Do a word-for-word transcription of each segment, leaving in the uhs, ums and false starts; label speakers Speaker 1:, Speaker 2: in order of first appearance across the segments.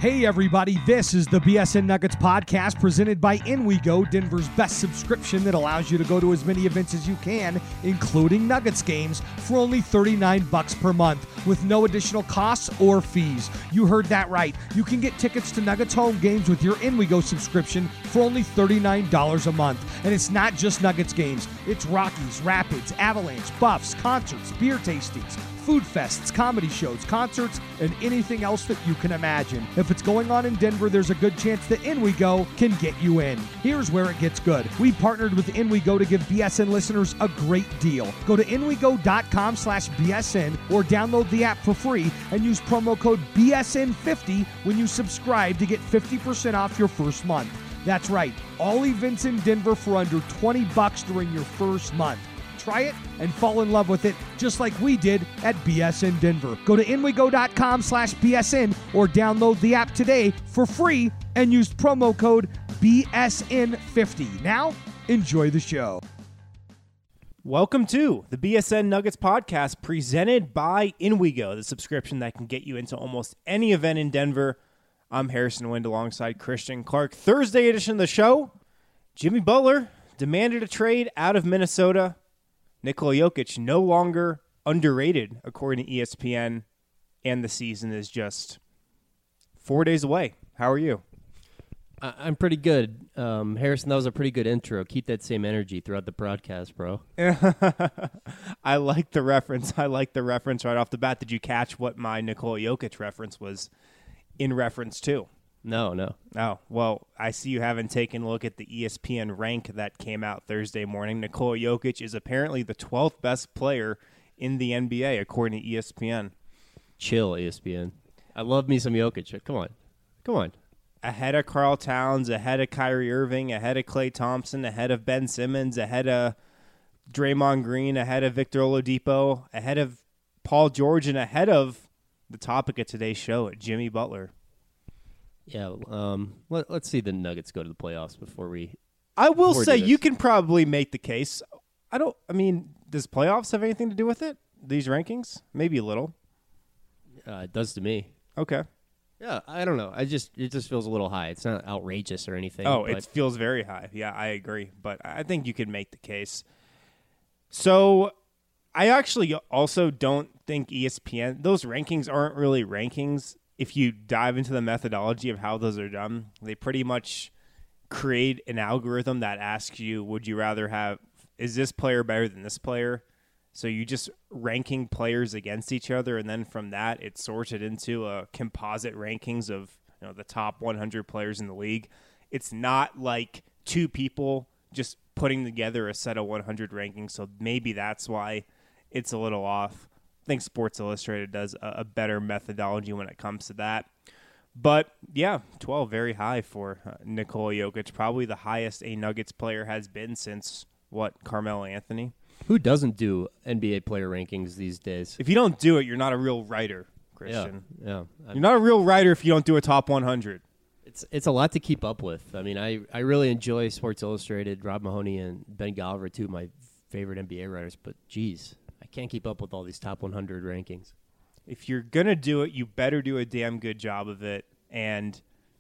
Speaker 1: Hey everybody, this is the B S N Nuggets podcast presented by In We Go, Denver's best subscription that allows you to go to as many events as you can, including Nuggets games, for only thirty-nine bucks per month with no additional costs or fees. You heard that right. You can get tickets to Nuggets home games with your In We Go subscription for only thirty-nine dollars a month. And it's not just Nuggets games. It's Rockies, Rapids, Avalanche, Buffs, concerts, beer tastings, food fests, comedy shows, concerts, and anything else that you can imagine. If it's going on in Denver, there's a good chance that In We Go can get you in. Here's where it gets good. We partnered with In We Go to give B S N listeners a great deal. Go to inwego.com slash BSN or download the app for free and use promo code B S N fifty when you subscribe to get fifty percent off your first month. That's right, all events in Denver for under twenty bucks during your first month. Try it and fall in love with it just like we did at B S N Denver. Go to inwego.com slash BSN or download the app today for free and use promo code B S N fifty. Now, enjoy the show.
Speaker 2: Welcome to the B S N Nuggets podcast presented by In We Go, the subscription that can get you into almost any event in Denver. I'm Harrison Wind alongside Christian Clark. Thursday edition of the show, Jimmy Butler demanded a trade out of Minnesota. Nikola Jokic no longer underrated, according to E S P N, and the season is just four days away. How are you?
Speaker 3: I'm pretty good. Um, Harrison, that was a pretty good intro. Keep that same energy throughout the broadcast, bro.
Speaker 2: I like the reference. I like the reference right off the bat. Did you catch what my Nikola Jokic reference was in reference to?
Speaker 3: No, no.
Speaker 2: Oh, well, I see you haven't taken a look at the E S P N rank that came out Thursday morning. Nikola Jokic is apparently the twelfth best player in the N B A, according to E S P N.
Speaker 3: Chill, E S P N. I love me some Jokic. Come on. Come on.
Speaker 2: Ahead of Karl Towns, ahead of Kyrie Irving, ahead of Klay Thompson, ahead of Ben Simmons, ahead of Draymond Green, ahead of Victor Oladipo, ahead of Paul George, and ahead of the topic of today's show, Jimmy Butler.
Speaker 3: Yeah, um, let, let's see the Nuggets go to the playoffs before we...
Speaker 2: I will say you can probably make the case. I don't, I mean, does playoffs have anything to do with it? These rankings? Maybe a little.
Speaker 3: Uh, it does to me.
Speaker 2: Okay.
Speaker 3: Yeah, I don't know. I just It just feels a little high. It's not outrageous or anything.
Speaker 2: Oh,
Speaker 3: but...
Speaker 2: it feels very high. Yeah, I agree. But I think you can make the case. So I actually also don't think E S P N, those rankings aren't really rankings. If you dive into the methodology of how those are done, they pretty much create an algorithm that asks you, would you rather have, is this player better than this player? So you just ranking players against each other, and then from that, it sorts it into a composite rankings of, you know, the top one hundred players in the league. It's not like two people just putting together a set of one hundred rankings, so maybe that's why it's a little off. I think Sports Illustrated does a, a better methodology when it comes to that. But, yeah, twelve, very high for uh, Nikola Jokic. Probably the highest a Nuggets player has been since, what, Carmelo Anthony?
Speaker 3: Who doesn't do N B A player rankings these days?
Speaker 2: If you don't do it, you're not a real writer, Christian.
Speaker 3: Yeah, yeah.
Speaker 2: You're not a real writer if you don't do a top one hundred.
Speaker 3: It's it's a lot to keep up with. I mean, I, I really enjoy Sports Illustrated. Rob Mahoney and Ben Golliver, two of my favorite N B A writers. But, geez, I can't keep up with all these top one hundred rankings.
Speaker 2: If you're going to do it, you better do a damn good job of it. And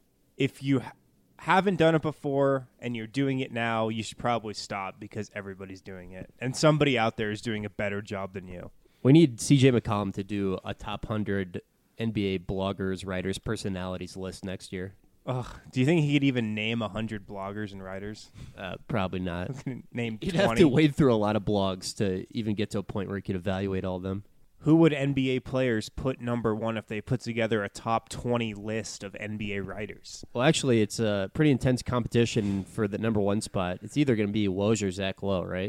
Speaker 2: if you ha- haven't done it before and you're doing it now, you should probably stop because everybody's doing it. And somebody out there is doing a better job than you.
Speaker 3: We need C J McCollum to do a top one hundred N B A bloggers, writers, personalities list next year.
Speaker 2: Ugh, do you think he could even name one hundred bloggers and writers?
Speaker 3: Uh, probably not.
Speaker 2: Name
Speaker 3: You'd
Speaker 2: twenty.
Speaker 3: have to wade through a lot of blogs to even get to a point where you could evaluate all of them.
Speaker 2: Who would N B A players put number one if they put together a top twenty list of N B A writers?
Speaker 3: Well, actually, it's a pretty intense competition for the number one spot. It's either going to be Woj or Zach Lowe, right?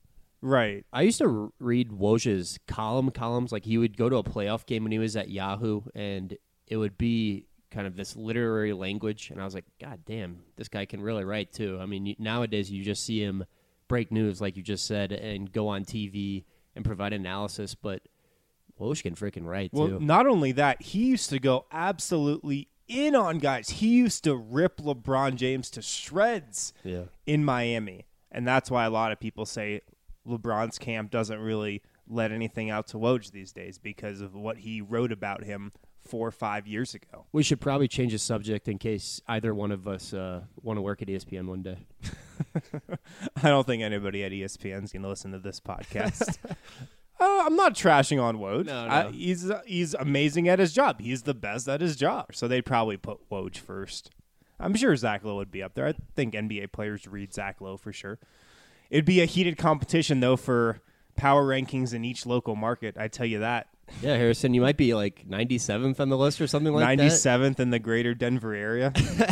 Speaker 2: Right.
Speaker 3: I used to r- read Woj's column columns. Like, he would go to a playoff game when he was at Yahoo, and it would be kind of this literary language, and I was like, God damn, this guy can really write, too. I mean, nowadays you just see him break news, like you just said, and go on T V and provide analysis, but Woj can freaking write,
Speaker 2: well,
Speaker 3: too.
Speaker 2: Well, not only that, he used to go absolutely in on guys. He used to rip LeBron James to shreds
Speaker 3: yeah.
Speaker 2: in Miami, and that's why a lot of people say LeBron's camp doesn't really let anything out to Woj these days because of what he wrote about him four or five years ago.
Speaker 3: We should probably change the subject in case either one of us uh, want to work at E S P N one day.
Speaker 2: I don't think anybody at E S P N is going to listen to this podcast. uh, I'm not trashing on Woj.
Speaker 3: No, no.
Speaker 2: I, he's he's amazing at his job. He's the best at his job. So they'd probably put Woj first. I'm sure Zach Lowe would be up there. I think N B A players read Zach Lowe for sure. It'd be a heated competition, though, for power rankings in each local market. I tell you that.
Speaker 3: Yeah, Harrison, you might be like ninety-seventh on the list or something like
Speaker 2: ninety-seventh in the greater Denver area.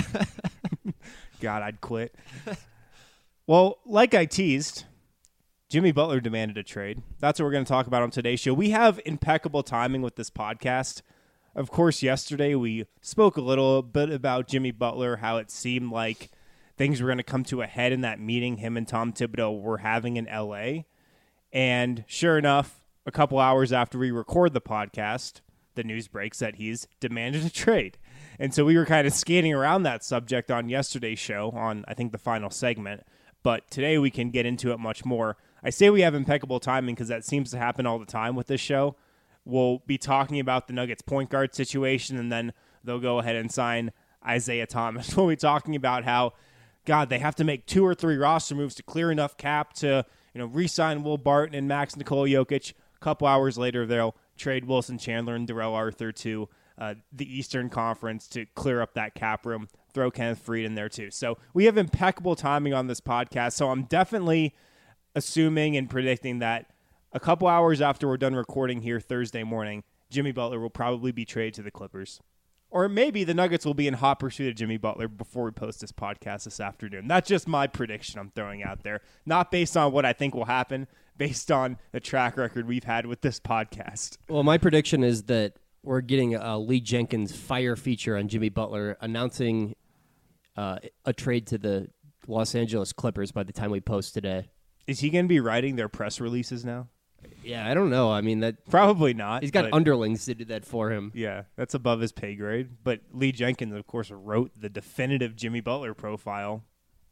Speaker 2: God, I'd quit. Well, like I teased, Jimmy Butler demanded a trade. That's what we're going to talk about on today's show. We have impeccable timing with this podcast. Of course, yesterday we spoke a little bit about Jimmy Butler, how it seemed like things were going to come to a head in that meeting him and Tom Thibodeau were having in L A. And sure enough, a couple hours after we record the podcast, the news breaks that he's demanded a trade. And so we were kind of skating around that subject on yesterday's show on, I think, the final segment. But today we can get into it much more. I say we have impeccable timing because that seems to happen all the time with this show. We'll be talking about the Nuggets point guard situation, and then they'll go ahead and sign Isaiah Thomas. We'll be talking about how, God, they have to make two or three roster moves to clear enough cap to, you know, re-sign Will Barton and Max Nikola Jokic. A couple hours later, they'll trade Wilson Chandler and Darrell Arthur to uh, the Eastern Conference to clear up that cap room. Throw Kenneth Faried in there too. So we have impeccable timing on this podcast. So I'm definitely assuming and predicting that a couple hours after we're done recording here Thursday morning, Jimmy Butler will probably be traded to the Clippers. Or maybe the Nuggets will be in hot pursuit of Jimmy Butler before we post this podcast this afternoon. That's just my prediction I'm throwing out there. Not based on what I think will happen, based on the track record we've had with this podcast.
Speaker 3: Well, my prediction is that we're getting a Lee Jenkins fire feature on Jimmy Butler announcing uh, a trade to the Los Angeles Clippers by the time we post today.
Speaker 2: Is he going to be writing their press releases now?
Speaker 3: Yeah, I don't know. I mean, that
Speaker 2: Probably not.
Speaker 3: he's got
Speaker 2: but-
Speaker 3: underlings to do that for him.
Speaker 2: Yeah, that's above his pay grade. But Lee Jenkins, of course, wrote the definitive Jimmy Butler profile.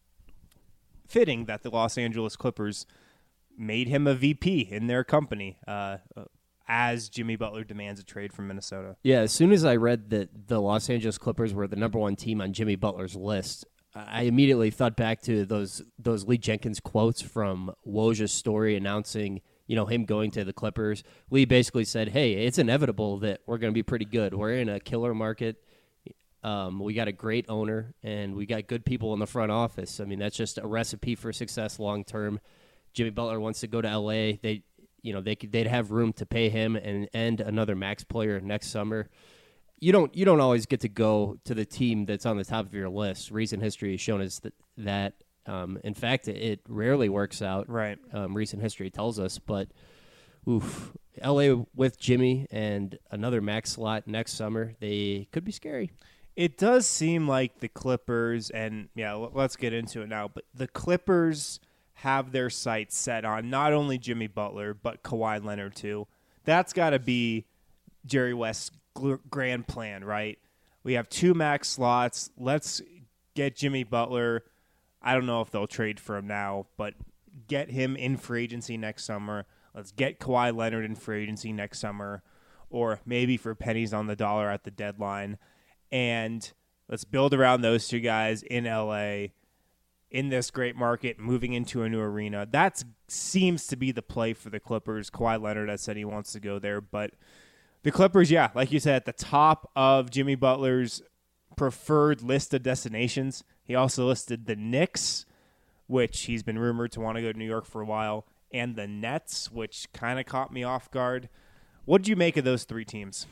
Speaker 2: Fitting that the Los Angeles Clippers made him a V P in their company uh, as Jimmy Butler demands a trade from Minnesota.
Speaker 3: Yeah, as soon as I read that the Los Angeles Clippers were the number one team on Jimmy Butler's list, I immediately thought back to those those Lee Jenkins quotes from Woj's story announcing, you know, him going to the Clippers. Lee basically said, hey, it's inevitable that we're going to be pretty good. We're in a killer market. Um, we got a great owner, and we got good people in the front office. I mean, that's just a recipe for success long term. Jimmy Butler wants to go to L A. They, you know, they could, they'd have room to pay him and and another max player next summer. You don't you don't always get to go to the team that's on the top of your list. Recent history has shown us that that. Um, in fact, it, it rarely works out.
Speaker 2: Right.
Speaker 3: Um, recent history tells us, but oof, L A with Jimmy and another max slot next summer, they could be scary.
Speaker 2: It does seem like the Clippers, and yeah, l- let's get into it now, but the Clippers have their sights set on not only Jimmy Butler, but Kawhi Leonard too. That's got to be Jerry West's gl- grand plan, right? We have two max slots. Let's get Jimmy Butler. I don't know if they'll trade for him now, but get him in free agency next summer. Let's get Kawhi Leonard in free agency next summer, or maybe for pennies on the dollar at the deadline. And let's build around those two guys in L A, in this great market, moving into a new arena. That seems to be the play for the Clippers. Kawhi Leonard has said he wants to go there. But the Clippers, yeah, like you said, at the top of Jimmy Butler's preferred list of destinations. He also listed the Knicks, which he's been rumored to want to go to New York for a while, and the Nets, which kind of caught me off guard. What did you make of those three teams?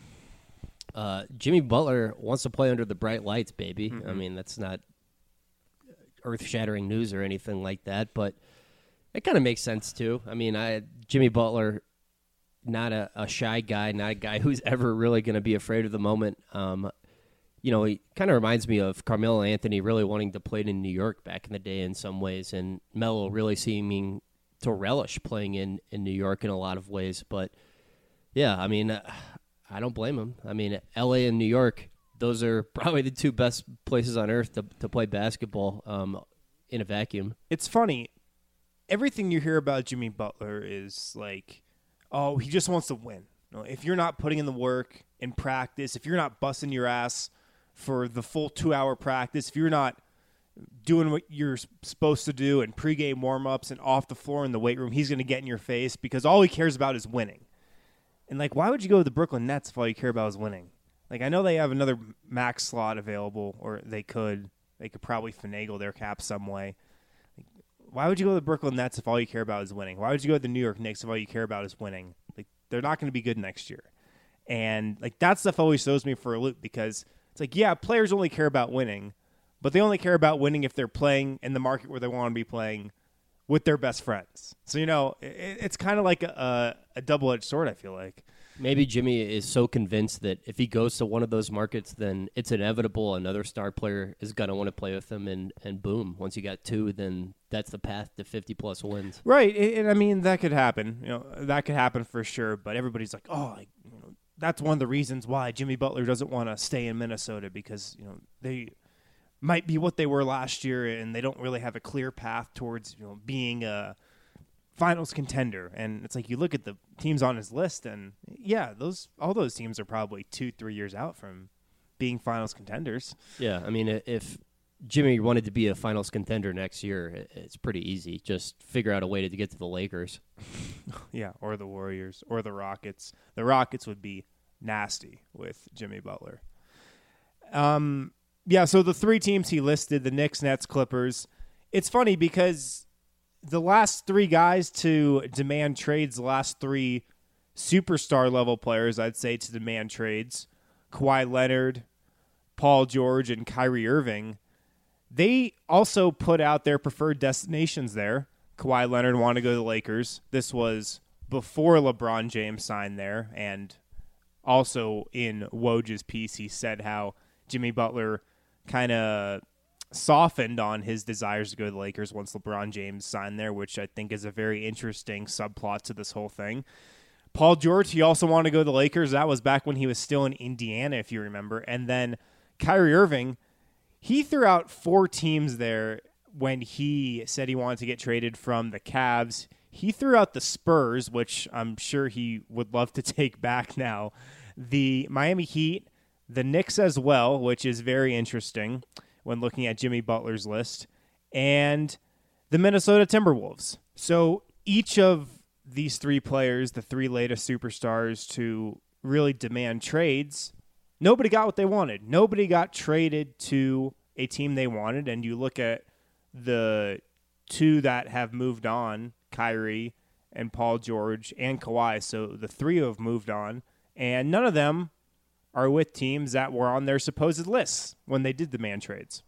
Speaker 3: Uh, Jimmy Butler wants to play under the bright lights, baby.
Speaker 2: Mm-hmm.
Speaker 3: I mean, that's not earth-shattering news or anything like that, but it kind of makes sense too. I mean, I Jimmy Butler, not a, a shy guy, not a guy who's ever really going to be afraid of the moment. Um, you know, he kind of reminds me of Carmelo Anthony really wanting to play in New York back in the day in some ways, and Melo really seeming to relish playing in, in New York in a lot of ways. But, yeah, I mean, uh, I don't blame him. I mean, L A and New York, those are probably the two best places on earth to, to play basketball um, in a vacuum.
Speaker 2: It's funny. Everything you hear about Jimmy Butler is like, oh, he just wants to win. You know, if you're not putting in the work in practice, if you're not busting your ass for the full two-hour practice, if you're not doing what you're supposed to do in pregame warm-ups and off the floor in the weight room, he's going to get in your face because all he cares about is winning. And, like, why would you go to the Brooklyn Nets if all you care about is winning? Like, I know they have another max slot available, or they could. They could probably finagle their cap some way. Like, why would you go to the Brooklyn Nets if all you care about is winning? Why would you go to the New York Knicks if all you care about is winning? Like, they're not going to be good next year. And, like, that stuff always throws me for a loop because it's like, yeah, players only care about winning, but they only care about winning if they're playing in the market where they want to be playing with their best friends. So, you know, it, it's kind of like a, a double-edged sword, I feel like.
Speaker 3: Maybe Jimmy is so convinced that if he goes to one of those markets, then it's inevitable another star player is going to want to play with him, and, and boom, once you got two, then that's the path to fifty-plus wins.
Speaker 2: Right, and, and I mean, that could happen. You know, that could happen for sure, but everybody's like, oh, like, you know, that's one of the reasons why Jimmy Butler doesn't want to stay in Minnesota because, you know, they might be what they were last year, and they don't really have a clear path towards, you know, being a finals contender. And it's like you look at the teams on his list, and yeah, those all those teams are probably two, three years out from being finals contenders.
Speaker 3: Yeah, I mean, if Jimmy wanted to be a finals contender next year, it's pretty easy. Just figure out a way to get to the Lakers.
Speaker 2: Yeah, or the Warriors, or the Rockets. The Rockets would be nasty with Jimmy Butler. Um, yeah, so the three teams he listed, the Knicks, Nets, Clippers, it's funny because the last three guys to demand trades, the last three superstar level players, I'd say, to demand trades, Kawhi Leonard, Paul George, and Kyrie Irving, they also put out their preferred destinations there. Kawhi Leonard wanted to go to the Lakers. This was before LeBron James signed there, and also in Woj's piece, he said how Jimmy Butler kind of softened on his desires to go to the Lakers once LeBron James signed there, which I think is a very interesting subplot to this whole thing. Paul George, he also wanted to go to the Lakers. That was back when he was still in Indiana, if you remember. And then Kyrie Irving, he threw out four teams there when he said he wanted to get traded from the Cavs. He threw out the Spurs, which I'm sure he would love to take back now. The Miami Heat, the Knicks as well, which is very interesting when looking at Jimmy Butler's list, and the Minnesota Timberwolves. So each of these three players, the three latest superstars to really demand trades, nobody got what they wanted. Nobody got traded to a team they wanted, and you look at the two that have moved on, Kyrie and Paul George and Kawhi, so the three who have moved on, and none of them are with teams that were on their supposed lists when they did demand trades.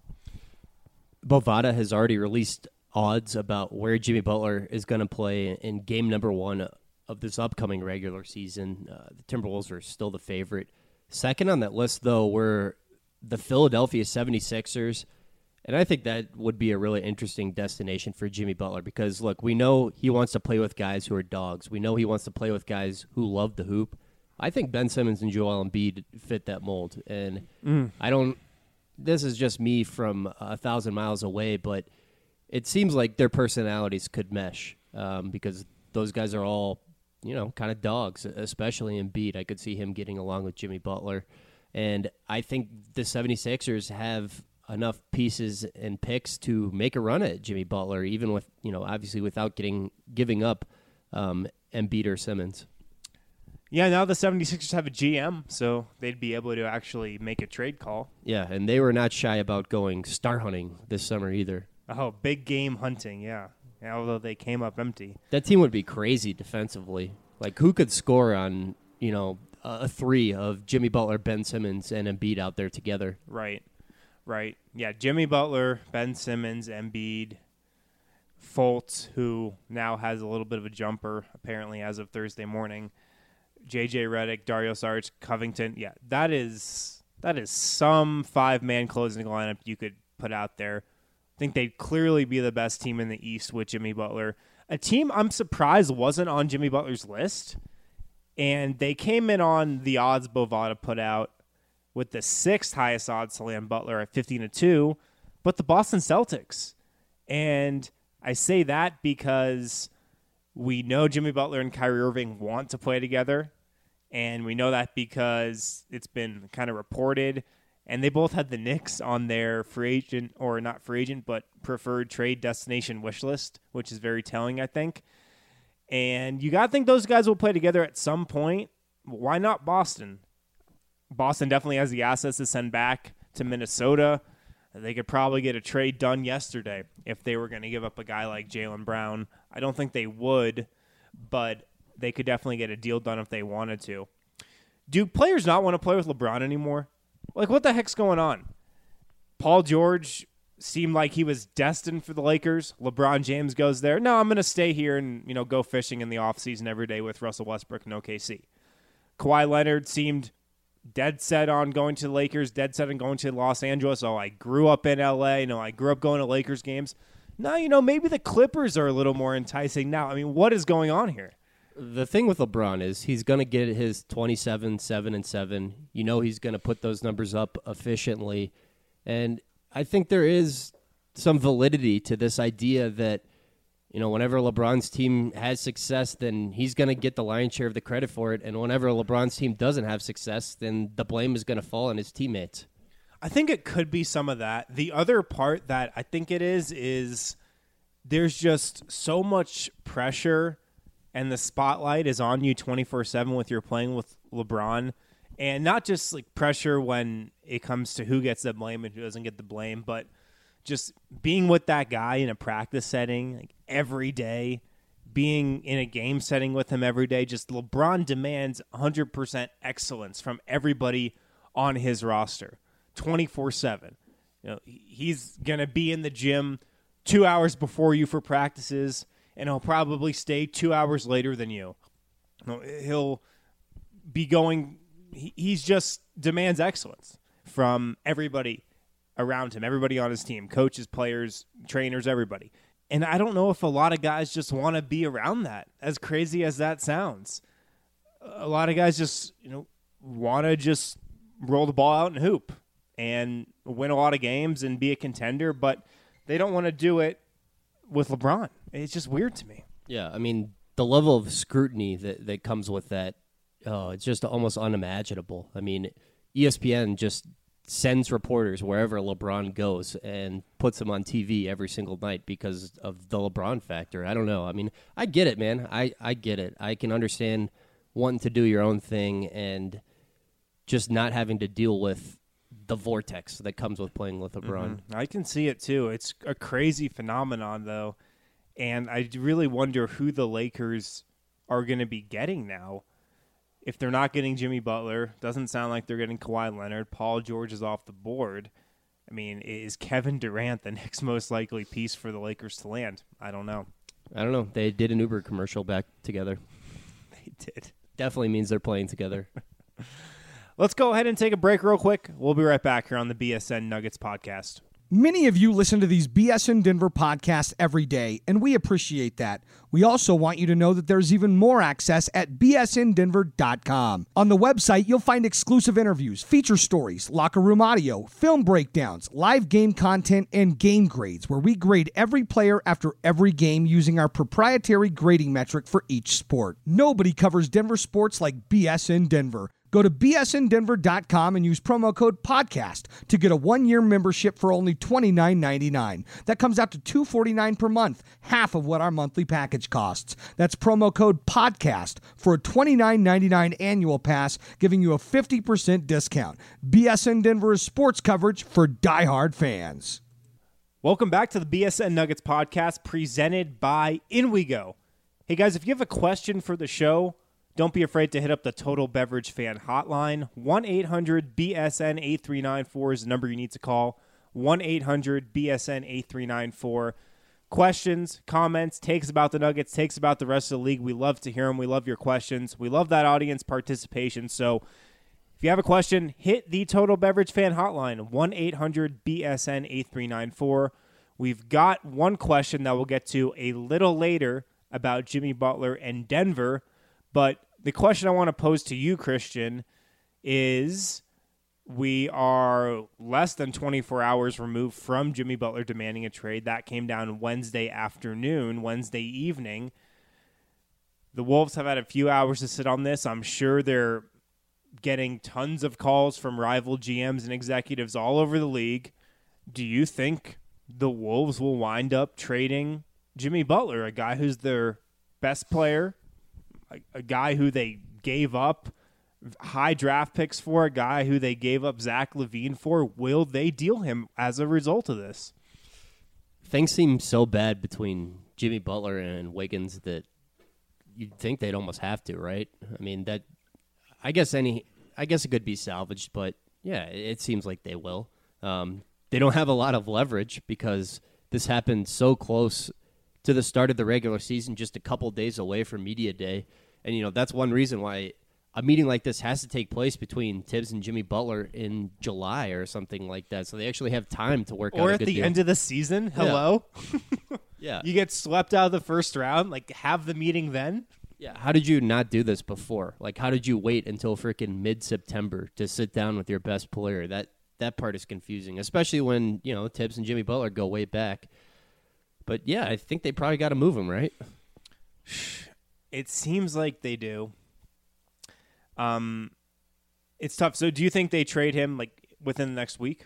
Speaker 3: Bovada has already released odds about where Jimmy Butler is going to play in game number one of this upcoming regular season. Uh, the Timberwolves are still the favorite. Second on that list, though, were the Philadelphia seventy-sixers, and I think that would be a really interesting destination for Jimmy Butler because, look, we know he wants to play with guys who are dogs. We know he wants to play with guys who love the hoop. I think Ben Simmons and Joel Embiid fit that mold, and mm. I don't – this is just me from a thousand miles away, but it seems like their personalities could mesh um, because those guys are all, you know, kind of dogs, especially Embiid. I could see him getting along with Jimmy Butler, and I think the seventy-sixers have enough pieces and picks to make a run at Jimmy Butler, even with, you know, obviously without getting giving up um, Embiid or Simmons.
Speaker 2: Yeah, now the seventy-sixers have a G M, so they'd be able to actually make a trade call.
Speaker 3: Yeah, and they were not shy about going star hunting this summer either.
Speaker 2: Oh, big game hunting, yeah. yeah although they came up empty.
Speaker 3: That team would be crazy defensively. Like, who could score on, you know, a three of Jimmy Butler, Ben Simmons, and Embiid out there together?
Speaker 2: Right, right. Yeah, Jimmy Butler, Ben Simmons, Embiid, Fultz, who now has a little bit of a jumper, apparently as of Thursday morning, J J Redick, Dario Saric, Covington. Yeah, that is that is some five-man closing lineup you could put out there. I think they'd clearly be the best team in the East with Jimmy Butler. A team I'm surprised wasn't on Jimmy Butler's list, and they came in on the odds Bovada put out with the sixth highest odds to land Butler at fifteen to two, but the Boston Celtics. And I say that because we know Jimmy Butler and Kyrie Irving want to play together, And we know that because it's been kind of reported. And they both had the Knicks on their free agent, or not free agent, but preferred trade destination wish list, which is very telling, I think. And you got to think those guys will play together at some point. Why not Boston? Boston definitely has the assets to send back to Minnesota. They could probably get a trade done yesterday if they were going to give up a guy like Jaylen Brown. I don't think they would, but they could definitely get a deal done if they wanted to. Do players not want to play with LeBron anymore? Like, what the heck's going on? Paul George seemed like he was destined for the Lakers. LeBron James goes there. No, I'm going to stay here and, you know, go fishing in the offseason every day with Russell Westbrook and O K C. Kawhi Leonard seemed dead set on going to the Lakers, dead set on going to Los Angeles. Oh, I grew up in L A. You know, I grew up going to Lakers games. Now, you know, maybe the Clippers are a little more enticing now. I mean, what is going on here?
Speaker 3: The thing with LeBron is he's going to get his twenty-seven, seven, and seven. You know he's going to put those numbers up efficiently. And I think there is some validity to this idea that, you know, whenever LeBron's team has success, then he's going to get the lion's share of the credit for it. And whenever LeBron's team doesn't have success, then the blame is going to fall on his teammates.
Speaker 2: I think it could be some of that. The other part that I think it is, is there's just so much pressure and the spotlight is on you twenty-four seven with you're playing with LeBron. And not just like pressure when it comes to who gets the blame and who doesn't get the blame, but just being with that guy in a practice setting like every day, being in a game setting with him every day. Just LeBron demands one hundred percent excellence from everybody on his roster twenty-four seven. You know, he's going to be in the gym two hours before you for practices, and he'll probably stay two hours later than you. You know, he'll be going – he's just demands excellence from everybody around him, everybody on his team, coaches, players, trainers, everybody. And I don't know if a lot of guys just want to be around that, as crazy as that sounds. A lot of guys just, you know, want to just roll the ball out and hoop and win a lot of games and be a contender, but they don't want to do it with LeBron. It's just weird to me.
Speaker 3: Yeah, I mean, the level of scrutiny that, that comes with that, oh, it's just almost unimaginable. I mean, E S P N just sends reporters wherever LeBron goes and puts him on T V every single night because of the LeBron factor. I don't know. I mean, I get it, man. I, I get it. I can understand wanting to do your own thing and just not having to deal with the vortex that comes with playing with LeBron.
Speaker 2: Mm-hmm. I can see it, too. It's a crazy phenomenon, though, and I really wonder who the Lakers are going to be getting now. If they're not getting Jimmy Butler, doesn't sound like they're getting Kawhi Leonard. Paul George is off the board. I mean, is Kevin Durant the next most likely piece for the Lakers to land? I don't know.
Speaker 3: I don't know. They did an Uber commercial back together.
Speaker 2: They did.
Speaker 3: Definitely means they're playing together.
Speaker 2: Let's go ahead and take a break real quick. We'll be right back here on the B S N Nuggets podcast.
Speaker 1: Many of you listen to these B S N Denver podcasts every day, and we appreciate that. We also want you to know that there's even more access at B S N Denver dot com. On the website, you'll find exclusive interviews, feature stories, locker room audio, film breakdowns, live game content, and game grades, where we grade every player after every game using our proprietary grading metric for each sport. Nobody covers Denver sports like B S N Denver. Go to B S N Denver dot com and use promo code PODCAST to get a one-year membership for only twenty-nine ninety-nine. That comes out to two hundred forty-nine dollars per month, half of what our monthly package costs. That's promo code PODCAST for a twenty-nine ninety-nine annual pass, giving you a fifty percent discount. B S N Denver is sports coverage for diehard fans.
Speaker 2: Welcome back to the B S N Nuggets podcast presented by In We Go. Hey guys, if you have a question for the show, don't be afraid to hit up the Total Beverage Fan Hotline. one eight hundred B S N eight three nine four is the number you need to call. one eight hundred B S N eight three nine four. Questions, comments, takes about the Nuggets, takes about the rest of the league. We love to hear them. We love your questions. We love that audience participation. So if you have a question, hit the Total Beverage Fan Hotline. one eight hundred B S N eight three nine four. We've got one question that we'll get to a little later about Jimmy Butler and Denver. But the question I want to pose to you, Christian, is we are less than twenty-four hours removed from Jimmy Butler demanding a trade. That came down Wednesday afternoon, Wednesday evening. The Wolves have had a few hours to sit on this. I'm sure they're getting tons of calls from rival G Ms and executives all over the league. Do you think the Wolves will wind up trading Jimmy Butler, a guy who's their best player, a, a guy who they gave up high draft picks for, a guy who they gave up Zach LaVine for? Will they deal him as a result of this?
Speaker 3: Things seem so bad between Jimmy Butler and Wiggins that you'd think they'd almost have to, right? I mean, that I guess any I guess it could be salvaged, but yeah, it seems like they will. Um, they don't have a lot of leverage because this happened so close to the start of the regular season, just a couple days away from media day. And, you know, that's one reason why a meeting like this has to take place between Tibbs and Jimmy Butler in July or something like that. So they actually have time to work out a
Speaker 2: Or at
Speaker 3: good
Speaker 2: the
Speaker 3: deal.
Speaker 2: end of the season. Hello?
Speaker 3: Yeah.
Speaker 2: You get swept out of the first round. Like, have the meeting then?
Speaker 3: Yeah. How did you not do this before? Like, how did you wait until freaking mid-September to sit down with your best player? That that part is confusing, especially when, you know, Tibbs and Jimmy Butler go way back. But, yeah, I think they probably got to move him, right?
Speaker 2: It seems like they do. Um, it's tough. So do you think they trade him like within the next week?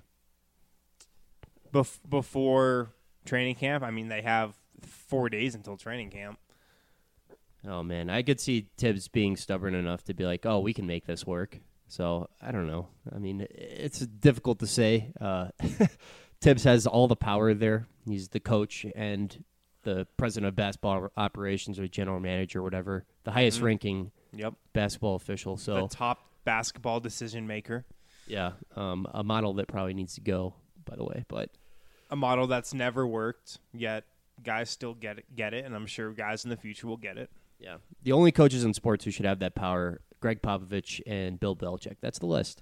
Speaker 2: Bef- before training camp? I mean, they have four days until training camp.
Speaker 3: Oh, man. I could see Tibbs being stubborn enough to be like, oh, we can make this work. So, I don't know. I mean, it's difficult to say. Uh, Tibbs has all the power there. He's the coach and the president of basketball operations or general manager or whatever, the highest
Speaker 2: Mm-hmm.
Speaker 3: ranking
Speaker 2: Yep.
Speaker 3: basketball official. So,
Speaker 2: The top basketball decision maker.
Speaker 3: yeah, um, a model that probably needs to go, by the way. But
Speaker 2: A model that's never worked, yet guys still get it, get it, and I'm sure guys in the future will get it.
Speaker 3: yeah, the only coaches in sports who should have that power, Greg Popovich and Bill Belichick. That's the list.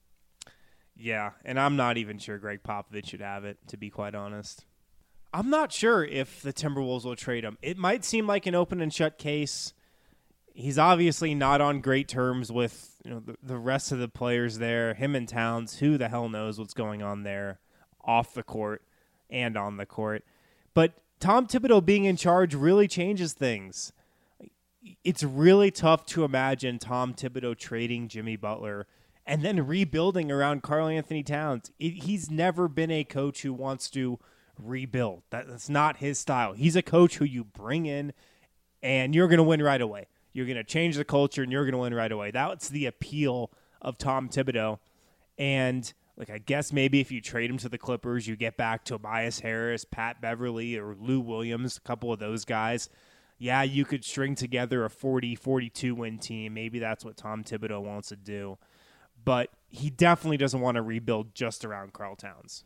Speaker 2: Yeah, and I'm not even sure Greg Popovich should have it, to be quite honest. I'm not sure if the Timberwolves will trade him. It might seem like an open and shut case. He's obviously not on great terms with, you know, the, the rest of the players there. Him and Towns, who the hell knows what's going on there off the court and on the court. But Tom Thibodeau being in charge really changes things. It's really tough to imagine Tom Thibodeau trading Jimmy Butler and then rebuilding around Karl Anthony Towns. It, he's never been a coach who wants to rebuild. That, that's not his style. He's a coach who you bring in and you're going to win right away. You're going to change the culture and you're going to win right away. That's the appeal of Tom Thibodeau. And like, I guess maybe if you trade him to the Clippers, you get back Tobias Harris, Pat Beverly, or Lou Williams, a couple of those guys. Yeah, you could string together a forty, forty-two win team. Maybe that's what Tom Thibodeau wants to do. But he definitely doesn't want to rebuild just around Karl Towns.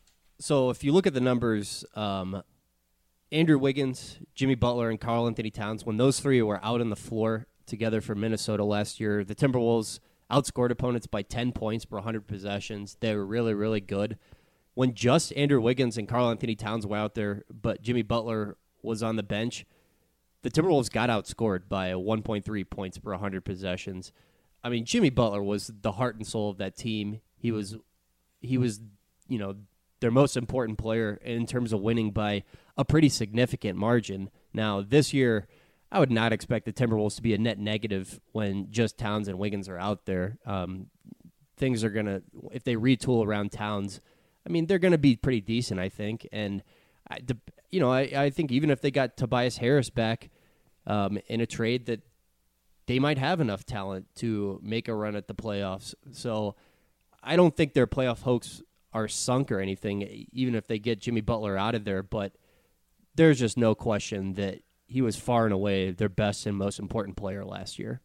Speaker 3: So if you look at the numbers, um, Andrew Wiggins, Jimmy Butler, and Karl Anthony Towns, when those three were out on the floor together for Minnesota last year, the Timberwolves outscored opponents by ten points per one hundred possessions. They were really, really good. When just Andrew Wiggins and Karl Anthony Towns were out there, but Jimmy Butler was on the bench, the Timberwolves got outscored by one point three points per one hundred possessions. I mean, Jimmy Butler was the heart and soul of that team. He was, he was, you know, their most important player in terms of winning by a pretty significant margin. Now, this year, I would not expect the Timberwolves to be a net negative when just Towns and Wiggins are out there. Um, things are going to, if they retool around Towns, I mean, they're going to be pretty decent, I think. And, I, the, you know, I, I think even if they got Tobias Harris back um, in a trade, that they might have enough talent to make a run at the playoffs. So I don't think their playoff hopes are sunk or anything, even if they get Jimmy Butler out of there. But there's just no question that he was far and away their best and most important player last year.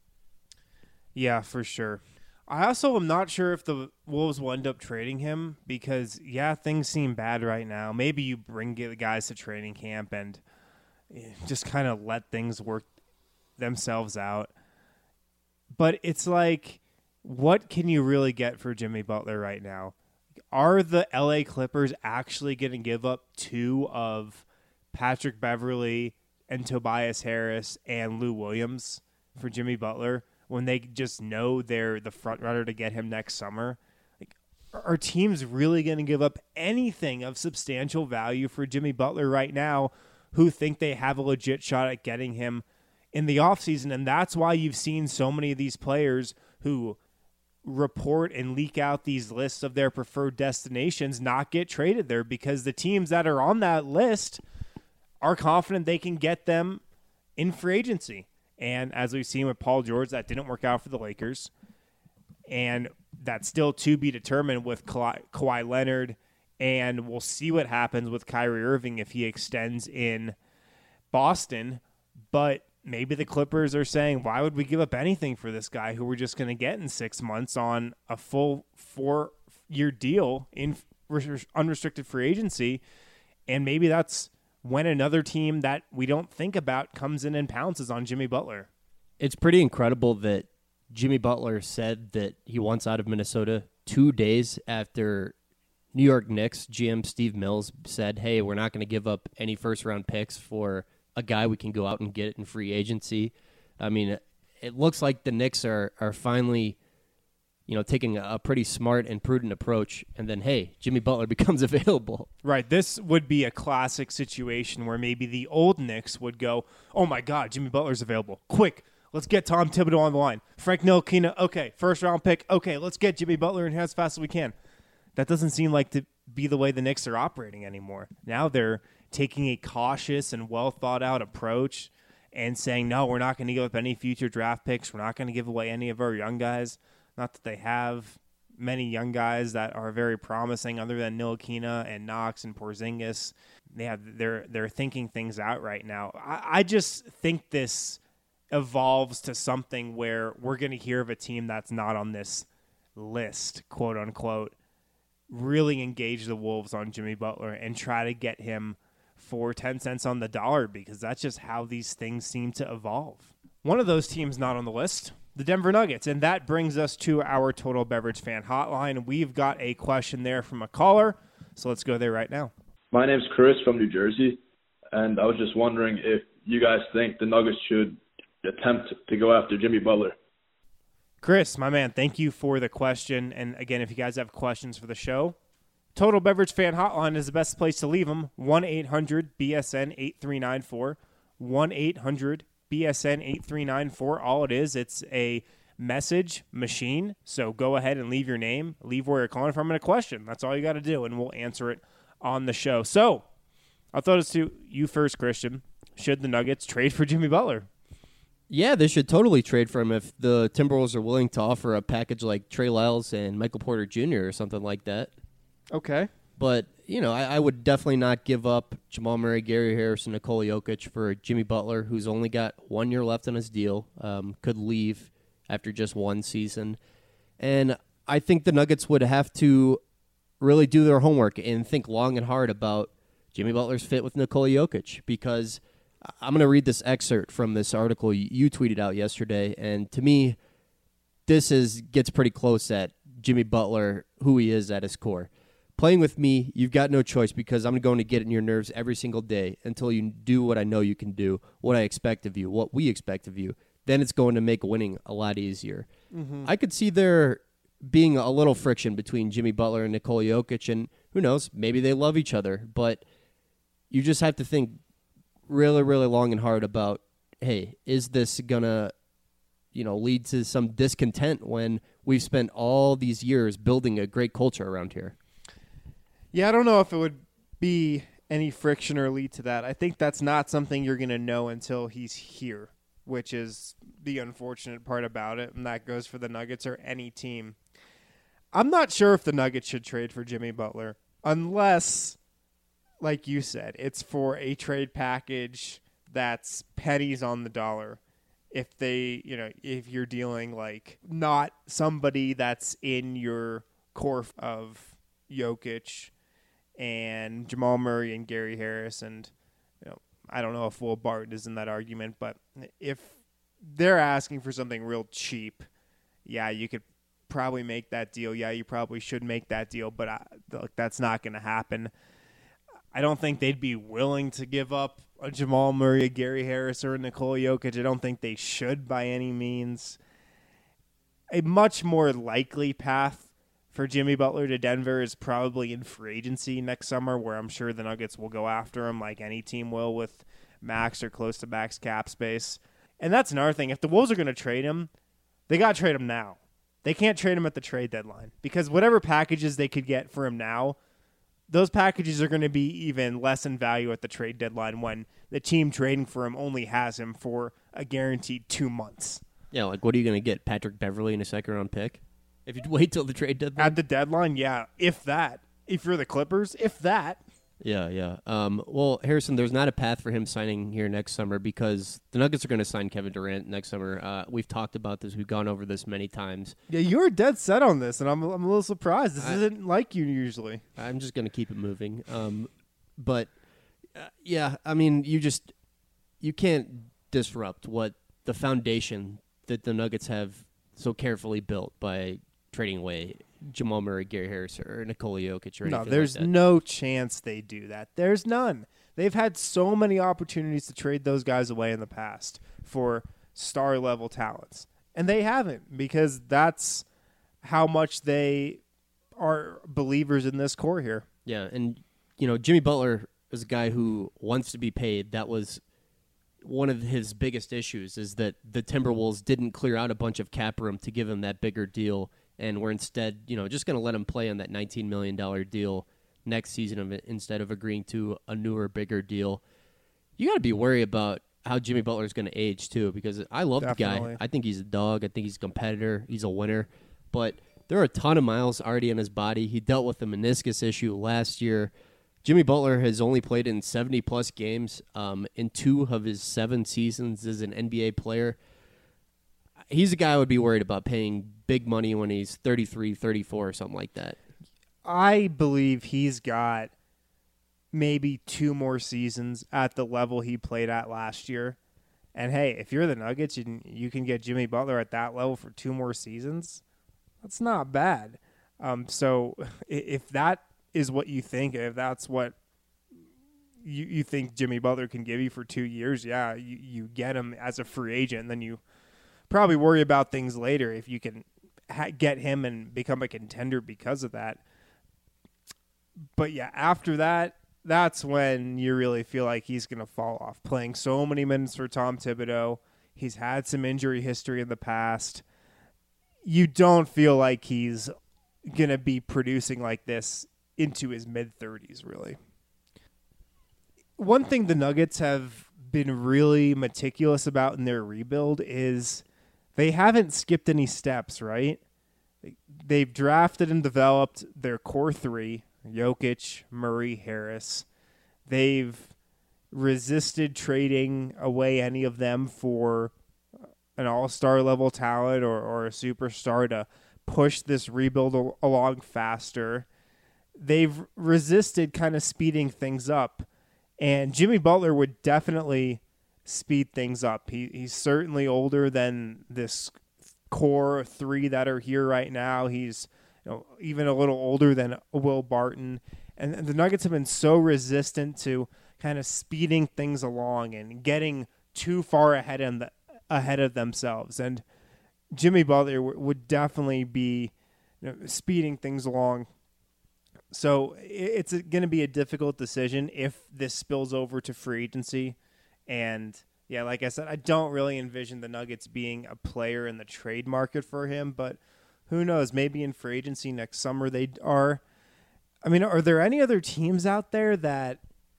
Speaker 2: Yeah, for sure. I also am not sure if the Wolves will end up trading him because, yeah, things seem bad right now. Maybe you bring the guys to training camp and just kind of let things work themselves out. But it's like, what can you really get for Jimmy Butler right now? Are the L A Clippers actually going to give up two of Patrick Beverly and Tobias Harris and Lou Williams for Jimmy Butler when they just know they're the front runner to get him next summer? Like, are teams really going to give up anything of substantial value for Jimmy Butler right now who think they have a legit shot at getting him in the offseason, and that's why you've seen so many of these players who report and leak out these lists of their preferred destinations not get traded there, because the teams that are on that list are confident they can get them in free agency. And as we've seen with Paul George, that didn't work out for the Lakers. And that's still to be determined with Kawhi, Kawhi Leonard. And we'll see what happens with Kyrie Irving if he extends in Boston. But maybe the Clippers are saying, why would we give up anything for this guy who we're just going to get in six months on a full four-year deal in unrestricted free agency? And maybe that's when another team that we don't think about comes in and pounces on Jimmy Butler.
Speaker 3: It's pretty incredible that Jimmy Butler said that he wants out of Minnesota two days after New York Knicks G M Steve Mills said, hey, we're not going to give up any first-round picks for a guy we can go out and get in free agency. I mean, it looks like the Knicks are are finally, you know, taking a pretty smart and prudent approach. And then, hey, Jimmy Butler becomes available.
Speaker 2: Right. This would be a classic situation where maybe the old Knicks would go, oh, my God, Jimmy Butler's available. Quick, let's get Tom Thibodeau on the line. Frank Ntilikina, okay, first-round pick. Okay, let's get Jimmy Butler in here as fast as we can. That doesn't seem like to be the way the Knicks are operating anymore. Now they're taking a cautious and well-thought-out approach and saying, no, we're not going to give up any future draft picks. We're not going to give away any of our young guys. Not that they have many young guys that are very promising other than Ntilikina and Knox and Porzingis. They have, they're, they're thinking things out right now. I, I just think this evolves to something where we're going to hear of a team that's not on this list, quote-unquote, really engage the Wolves on Jimmy Butler and try to get him for ten cents on the dollar, because that's just how these things seem to evolve. One of those teams not on the list, the Denver Nuggets, and that brings us to our Total Beverage Fan Hotline. We've got a question there from a caller, so let's go there right now.
Speaker 4: My name's Chris from New Jersey, and I was just wondering if you guys think the Nuggets should attempt to go after Jimmy Butler.
Speaker 2: Chris, my man, thank you for the question. And again, if you guys have questions for the show, Total Beverage Fan Hotline is the best place to leave them. one eight hundred B S N eight three nine four. one eight hundred B S N eight three nine four. All it is, it's a message machine. So go ahead and leave your name, leave where you're calling from, and a question. That's all you got to do, and we'll answer it on the show. So I'll throw this to you first, Christian. Should the Nuggets trade for Jimmy Butler?
Speaker 3: Yeah, they should totally trade for him if the Timberwolves are willing to offer a package like Trey Lyles and Michael Porter Junior or something like that.
Speaker 2: Okay.
Speaker 3: But, you know, I, I would definitely not give up Jamal Murray, Gary Harris, and Nikola Jokic for Jimmy Butler, who's only got one year left on his deal, um, could leave after just one season. And I think the Nuggets would have to really do their homework and think long and hard about Jimmy Butler's fit with Nikola Jokic, because I'm going to read this excerpt from this article you tweeted out yesterday, and to me, this is gets pretty close at Jimmy Butler, who he is at his core. Playing with me, you've got no choice, because I'm going to get in your nerves every single day until you do what I know you can do, what I expect of you, what we expect of you. Then it's going to make winning a lot easier. Mm-hmm. I could see there being a little friction between Jimmy Butler and Nikola Jokic, and who knows, maybe they love each other, but you just have to think really, really long and hard about, hey, is this going to, you know, lead to some discontent when we've spent all these years building a great culture around here?
Speaker 2: Yeah, I don't know if it would be any friction or lead to that. I think that's not something you're going to know until he's here, which is the unfortunate part about it, and that goes for the Nuggets or any team. I'm not sure if the Nuggets should trade for Jimmy Butler unless, like you said, it's for a trade package that's pennies on the dollar. If they, you know, if you're dealing like not somebody that's in your core of Jokic and Jamal Murray and Gary Harris, and you know, I don't know if Will Barton is in that argument, but if they're asking for something real cheap, yeah, you could probably make that deal. Yeah, you probably should make that deal, but I, look, that's not going to happen. I don't think they'd be willing to give up a Jamal Murray, a Gary Harris, or a Nikola Jokic. I don't think they should by any means. A much more likely path for Jimmy Butler to Denver is probably in free agency next summer, where I'm sure the Nuggets will go after him like any team will with max or close to max cap space. And that's another thing. If the Wolves are going to trade him, they got to trade him now. They can't trade him at the trade deadline because whatever packages they could get for him now, those packages are going to be even less in value at the trade deadline when the team trading for him only has him for a guaranteed two months.
Speaker 3: Yeah, like what are you going to get? Patrick Beverley in a second round pick? If you wait till the trade deadline?
Speaker 2: At the deadline, yeah, if that. If you're the Clippers, if that.
Speaker 3: Yeah, yeah. Um, well, Harrison, there's not a path for him signing here next summer because the Nuggets are going to sign Kevin Durant next summer. Uh, we've talked about this. We've gone over this many times.
Speaker 2: Yeah, you're dead set on this, and I'm I'm a little surprised. This
Speaker 3: I,
Speaker 2: isn't like you usually.
Speaker 3: I'm just going to keep it moving. Um, but, uh, yeah, I mean, you just you can't disrupt what the foundation that the Nuggets have so carefully built by trading away Jamal Murray, Gary Harris, or Nikola Jokic or anything
Speaker 2: No, there's
Speaker 3: like that.
Speaker 2: no chance they do that. There's none. They've had so many opportunities to trade those guys away in the past for star-level talents, and they haven't because that's how much they are believers in this core here.
Speaker 3: Yeah, and, you know, Jimmy Butler is a guy who wants to be paid. That was one of his biggest issues is that the Timberwolves didn't clear out a bunch of cap room to give him that bigger deal, and we're instead, you know, just going to let him play on that nineteen million dollars deal next season of it instead of agreeing to a newer, bigger deal. You got to be worried about how Jimmy Butler is going to age, too, because I love
Speaker 2: Definitely.
Speaker 3: the guy. I think he's a dog. I think he's a competitor. He's a winner. But there are a ton of miles already in his body. He dealt with the meniscus issue last year. Jimmy Butler has only played in seventy-plus games um, in two of his seven seasons as an N B A player. He's a guy I would be worried about paying big money when he's thirty-three, thirty-four, or something like that.
Speaker 2: I believe he's got maybe two more seasons at the level he played at last year. And, hey, if you're the Nuggets and you can get Jimmy Butler at that level for two more seasons, that's not bad. Um, so if that is what you think, if that's what you, you think Jimmy Butler can give you for two years, yeah, you, you get him as a free agent, and then you probably worry about things later if you can ha- get him and become a contender because of that. But, yeah, after that, that's when you really feel like he's going to fall off. Playing so many minutes for Tom Thibodeau. He's had some injury history in the past. You don't feel like he's going to be producing like this into his mid-thirties, really. One thing the Nuggets have been really meticulous about in their rebuild is they haven't skipped any steps, right? They've drafted and developed their core three, Jokic, Murray, Harris. They've resisted trading away any of them for an all-star level talent or, or a superstar to push this rebuild al- along faster. They've resisted kind of speeding things up. And Jimmy Butler would definitely speed things up. He He's certainly older than this core three that are here right now. He's you know, even a little older than Will Barton. And the Nuggets have been so resistant to kind of speeding things along and getting too far ahead of, the, ahead of themselves. And Jimmy Butler w- would definitely be you know, speeding things along. So it's going to be a difficult decision if this spills over to free agency. And, yeah, like I said, I don't really envision the Nuggets being a player in the trade market for him. But who knows? Maybe in free agency next summer they are. I mean, are there any other teams out there that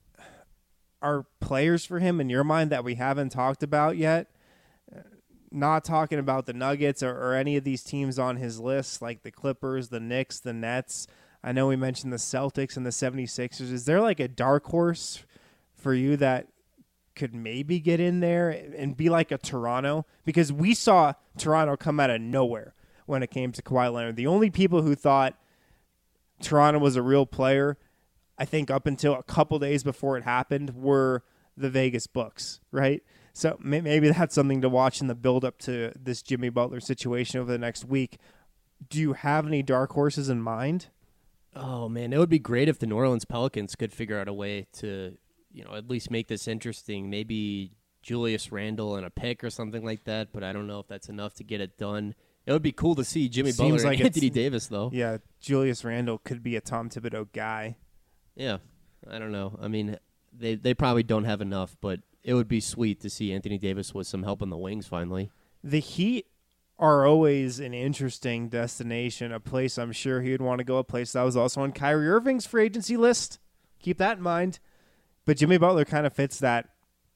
Speaker 2: are players for him in your mind that we haven't talked about yet? Not talking about the Nuggets or, or any of these teams on his list, like the Clippers, the Knicks, the Nets. I know we mentioned the Celtics and the seventy-sixers. Is there like a dark horse for you that could maybe get in there and be like a Toronto? Because we saw Toronto come out of nowhere when it came to Kawhi Leonard. The only people who thought Toronto was a real player, I think up until a couple days before it happened, were the Vegas books, right? So maybe that's something to watch in the build-up to this Jimmy Butler situation over the next week. Do you have any dark horses in mind?
Speaker 3: Oh, man, it would be great if the New Orleans Pelicans could figure out a way to, you know, at least make this interesting. Maybe Julius Randle and a pick or something like that, but I don't know if that's enough to get it done. It would be cool to see Jimmy
Speaker 2: Seems
Speaker 3: Butler
Speaker 2: like
Speaker 3: and Anthony
Speaker 2: it's-
Speaker 3: Davis, though.
Speaker 2: Yeah, Julius Randle could be a Tom Thibodeau guy.
Speaker 3: Yeah, I don't know. I mean, they they probably don't have enough, but it would be sweet to see Anthony Davis with some help in the wings finally.
Speaker 2: The Heat are always an interesting destination, a place I'm sure he would want to go, a place that was also on Kyrie Irving's free agency list. Keep that in mind. But Jimmy Butler kind of fits that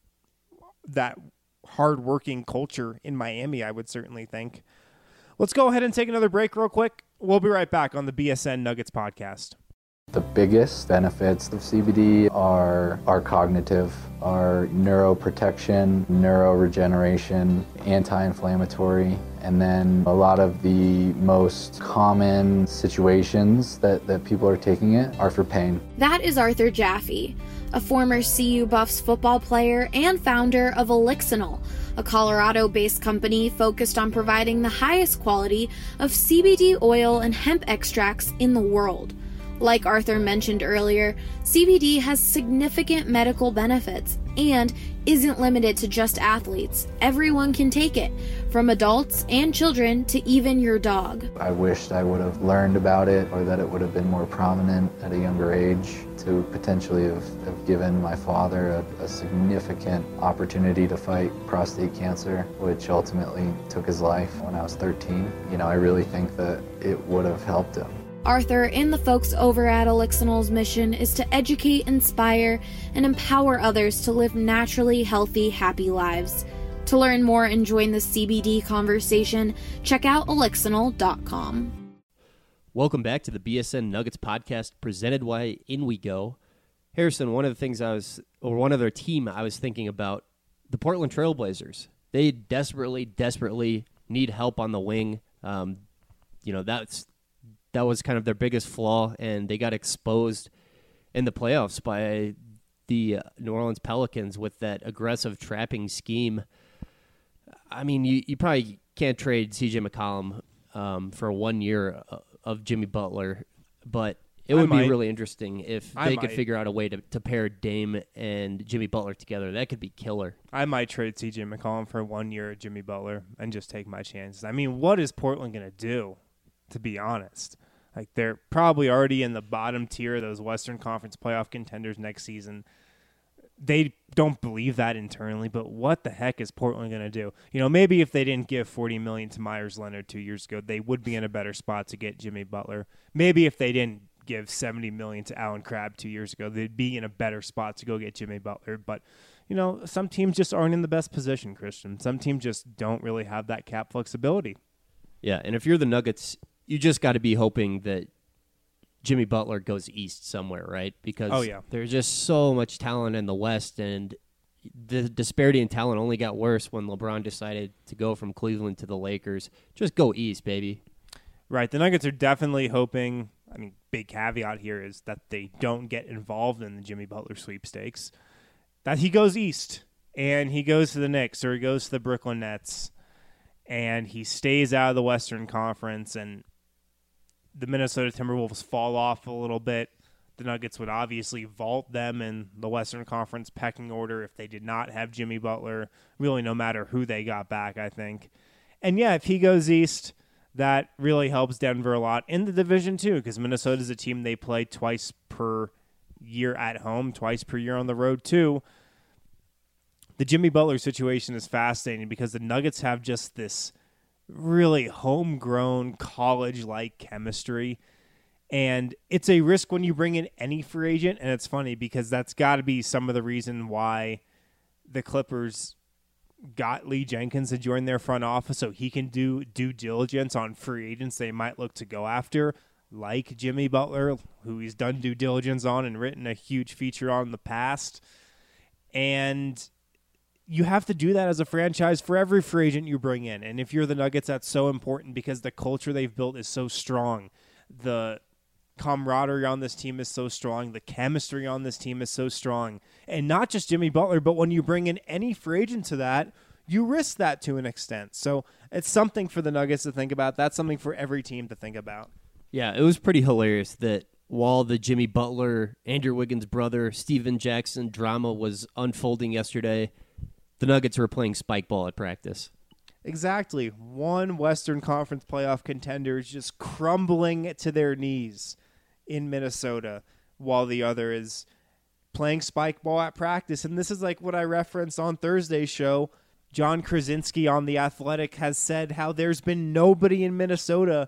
Speaker 2: that hard-working culture in Miami, I would certainly think. Let's go ahead and take another break real quick. We'll be right back on the B S N Nuggets podcast.
Speaker 5: The biggest benefits of C B D are, are cognitive, are neuroprotection, neuroregeneration, anti-inflammatory, and then a lot of the most common situations that, that people are taking it are for pain.
Speaker 6: That is Arthur Jaffe, a former C U Buffs football player and founder of Elixinol, a Colorado-based company focused on providing the highest quality of C B D oil and hemp extracts in the world. Like Arthur mentioned earlier, C B D has significant medical benefits and isn't limited to just athletes. Everyone can take it, from adults and children to even your dog.
Speaker 5: I wished I would have learned about it, or that it would have been more prominent at a younger age, to potentially have, have given my father a, a significant opportunity to fight prostate cancer, which ultimately took his life when I was thirteen. You know, I really think that it would have helped him.
Speaker 6: Arthur and the folks over at Elixinol's mission is to educate, inspire, and empower others to live naturally healthy, happy lives. To learn more and join the C B D conversation, check out elixinol dot com.
Speaker 3: Welcome back to the B S N Nuggets podcast, presented by In We Go. Harrison, one of the things I was, or one other team I was thinking about, the Portland Trail Blazers. They desperately, desperately need help on the wing. Um, you know, that's That was kind of their biggest flaw, and they got exposed in the playoffs by the uh, New Orleans Pelicans with that aggressive trapping scheme. I mean, you, you probably can't trade C J McCollum um, for one year of Jimmy Butler, but it would be really interesting if
Speaker 2: I
Speaker 3: they
Speaker 2: might.
Speaker 3: could figure out a way to, to pair Dame and Jimmy Butler together. That could be killer.
Speaker 2: I might trade C J McCollum for one year of Jimmy Butler and just take my chances. I mean, what is Portland going to do, to be honest? Like, they're probably already in the bottom tier of those Western Conference playoff contenders next season. They don't believe that internally, but what the heck is Portland going to do? You know, maybe if they didn't give forty million dollars to Myers Leonard two years ago, they would be in a better spot to get Jimmy Butler. Maybe if they didn't give seventy million dollars to Allen Crabbe two years ago, they'd be in a better spot to go get Jimmy Butler. But, you know, some teams just aren't in the best position, Christian. Some teams just don't really have that cap flexibility.
Speaker 3: Yeah, and if you're the Nuggets, you just got to be hoping that Jimmy Butler goes east somewhere, right? Because
Speaker 2: oh, yeah.
Speaker 3: there's just so much talent in the West, and the disparity in talent only got worse when LeBron decided to go from Cleveland to the Lakers. Just go east, baby.
Speaker 2: Right. The Nuggets are definitely hoping, I mean, big caveat here is that they don't get involved in the Jimmy Butler sweepstakes, that he goes east and he goes to the Knicks or he goes to the Brooklyn Nets and he stays out of the Western Conference and the Minnesota Timberwolves fall off a little bit. The Nuggets would obviously vault them in the Western Conference pecking order if they did not have Jimmy Butler, really no matter who they got back, I think. And yeah, if he goes east, that really helps Denver a lot in the division too, because Minnesota is a team they play twice per year at home, twice per year on the road too. The Jimmy Butler situation is fascinating because the Nuggets have just this really homegrown college-like chemistry, and it's a risk when you bring in any free agent. And it's funny because that's got to be some of the reason why the Clippers got Lee Jenkins to join their front office, so he can do due diligence on free agents they might look to go after, like Jimmy Butler, who he's done due diligence on and written a huge feature on in the past. And you have to do that as a franchise for every free agent you bring in. And if you're the Nuggets, that's so important because the culture they've built is so strong. The camaraderie on this team is so strong. The chemistry on this team is so strong. And not just Jimmy Butler, but when you bring in any free agent to that, you risk that to an extent. So it's something for the Nuggets to think about. That's something for every team to think about.
Speaker 3: Yeah, it was pretty hilarious that while the Jimmy Butler, Andrew Wiggins' brother, Steven Jackson drama was unfolding yesterday, the Nuggets were playing spike ball at practice.
Speaker 2: Exactly. One Western Conference playoff contender is just crumbling to their knees in Minnesota, while the other is playing spike ball at practice. And this is like what I referenced on Thursday's show. John Krasinski on The Athletic has said how there's been nobody in Minnesota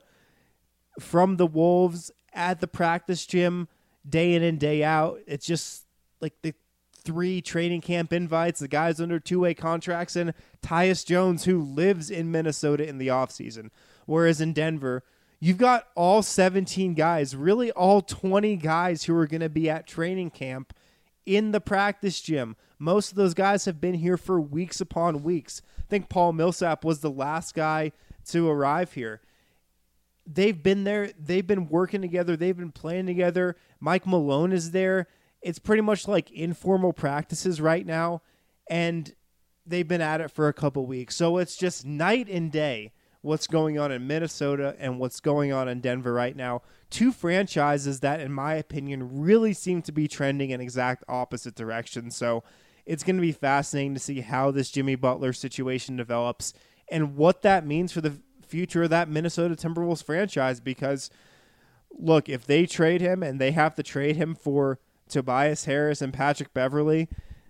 Speaker 2: from the Wolves at the practice gym day in and day out. It's just like the three training camp invites, the guys under two-way contracts, and Tyus Jones, who lives in Minnesota in the offseason. Whereas in Denver, you've got all seventeen guys, really all twenty guys who are going to be at training camp in the practice gym. Most of those guys have been here for weeks upon weeks. I think Paul Millsap was the last guy to arrive here. They've been there. They've been working together. They've been playing together. Mike Malone is there. It's pretty much like informal practices right now, and they've been at it for a couple weeks. So it's just night and day what's going on in Minnesota and what's going on in Denver right now. Two franchises that, in my opinion, really seem to be trending in exact opposite directions. So it's going to be fascinating to see how this Jimmy Butler situation develops and what that means for the future of that Minnesota Timberwolves franchise. Because, look, if they trade him and they have to trade him for Tobias Harris and Patrick Beverley,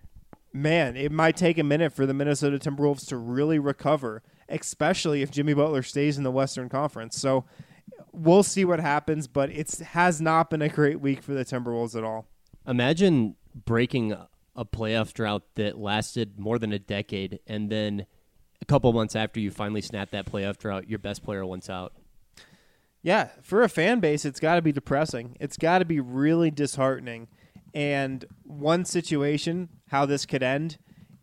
Speaker 2: man, it might take a minute for the Minnesota Timberwolves to really recover, especially if Jimmy Butler stays in the Western Conference. So we'll see what happens, but it has not been a great week for the Timberwolves at all.
Speaker 3: Imagine breaking a playoff drought that lasted more than a decade, and then a couple months after you finally snap that playoff drought, your best player wants out.
Speaker 2: Yeah, for a fan base, it's got to be depressing. It's got to be really disheartening. And one situation, how this could end,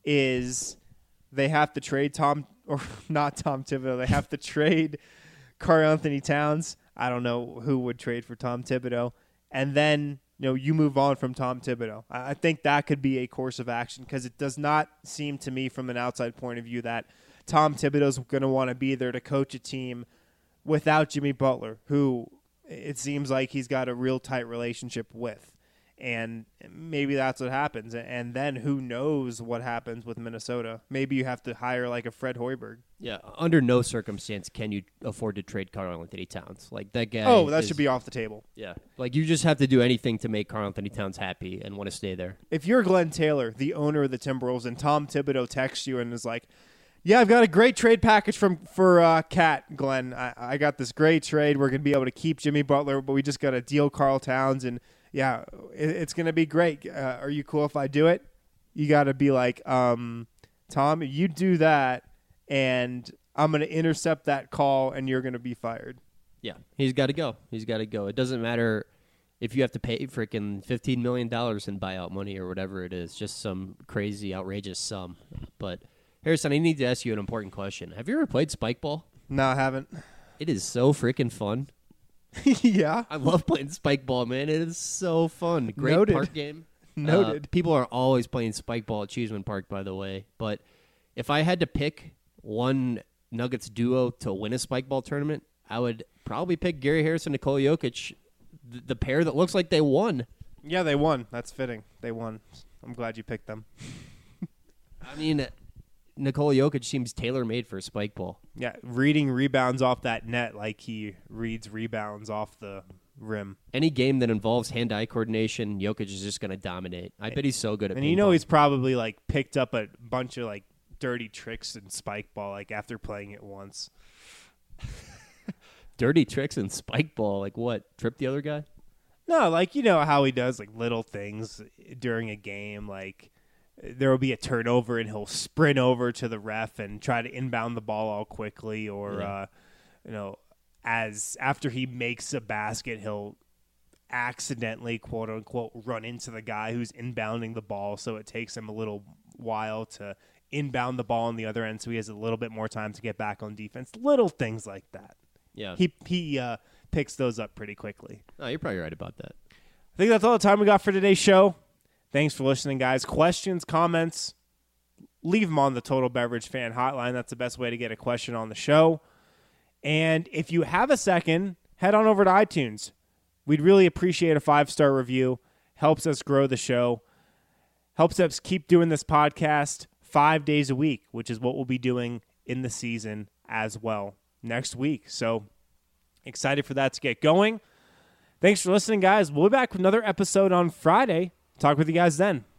Speaker 2: is they have to trade Tom, or not Tom Thibodeau, they have to trade Karl-Anthony Towns. I don't know who would trade for Tom Thibodeau. And then, you know, you move on from Tom Thibodeau. I think that could be a course of action, because it does not seem to me from an outside point of view that Tom Thibodeau's going to want to be there to coach a team without Jimmy Butler, who it seems like he's got a real tight relationship with. And maybe that's what happens. And then who knows what happens with Minnesota. Maybe you have to hire like a Fred Hoiberg.
Speaker 3: Yeah, under no circumstance can you afford to trade Karl-Anthony Towns. Like, that guy.
Speaker 2: Oh, that
Speaker 3: is,
Speaker 2: should be off the table.
Speaker 3: Yeah. Like, you just have to do anything to make Karl-Anthony Towns happy and want to stay there.
Speaker 2: If you're Glenn Taylor, the owner of the Timberwolves, and Tom Thibodeau texts you and is like, yeah, I've got a great trade package from for uh, Cat, Glenn. I, I got this great trade. We're going to be able to keep Jimmy Butler, but we just got to deal Karl Towns, and yeah, it, it's going to be great. Uh, are you cool if I do it? You got to be like, um, Tom, you do that, and I'm going to intercept that call, and you're going to be fired.
Speaker 3: Yeah, he's got to go. He's got to go. It doesn't matter if you have to pay freaking fifteen million dollars in buyout money or whatever it is, just some crazy, outrageous sum. But, Harrison, I need to ask you an important question. Have you ever played Spike Ball?
Speaker 2: No, I haven't.
Speaker 3: It is so freaking fun.
Speaker 2: Yeah.
Speaker 3: I love playing Spike Ball, man. It is so fun. Great
Speaker 2: Noted.
Speaker 3: park game.
Speaker 2: Noted.
Speaker 3: Uh, people are always playing Spike Ball at Cheeseman Park, by the way. But if I had to pick one Nuggets duo to win a Spike Ball tournament, I would probably pick Gary Harris and Nikola Jokic, the, the pair that looks like they won.
Speaker 2: Yeah, they won. That's fitting. They won. I'm glad you picked them.
Speaker 3: I mean, Nikola Jokic seems tailor-made for a Spike Ball.
Speaker 2: Yeah, reading rebounds off that net like he reads rebounds off the rim.
Speaker 3: Any game that involves hand-eye coordination, Jokic is just going to dominate. I bet he's so good at
Speaker 2: And
Speaker 3: ping
Speaker 2: you know
Speaker 3: pong.
Speaker 2: he's probably like picked up a bunch of like dirty tricks in Spike Ball like after playing it once.
Speaker 3: Dirty tricks in Spike Ball. Like what? Trip the other guy?
Speaker 2: No, like you know how he does like little things during a game, like there will be a turnover and he'll sprint over to the ref and try to inbound the ball all quickly, or
Speaker 3: Yeah.
Speaker 2: uh, you know, as after he makes a basket, he'll accidentally, quote unquote, run into the guy who's inbounding the ball, so it takes him a little while to inbound the ball on the other end, so he has a little bit more time to get back on defense. Little things like that.
Speaker 3: Yeah.
Speaker 2: He he uh, picks those up pretty quickly.
Speaker 3: Oh, you're probably right about that.
Speaker 2: I think that's all the time we got for today's show. Thanks for listening, guys. Questions, comments, leave them on the Total Beverage Fan Hotline. That's the best way to get a question on the show. And if you have a second, head on over to iTunes. We'd really appreciate a five-star review. Helps us grow the show. Helps us keep doing this podcast five days a week, which is what we'll be doing in the season as well next week. So excited for that to get going. Thanks for listening, guys. We'll be back with another episode on Friday talk with you guys then.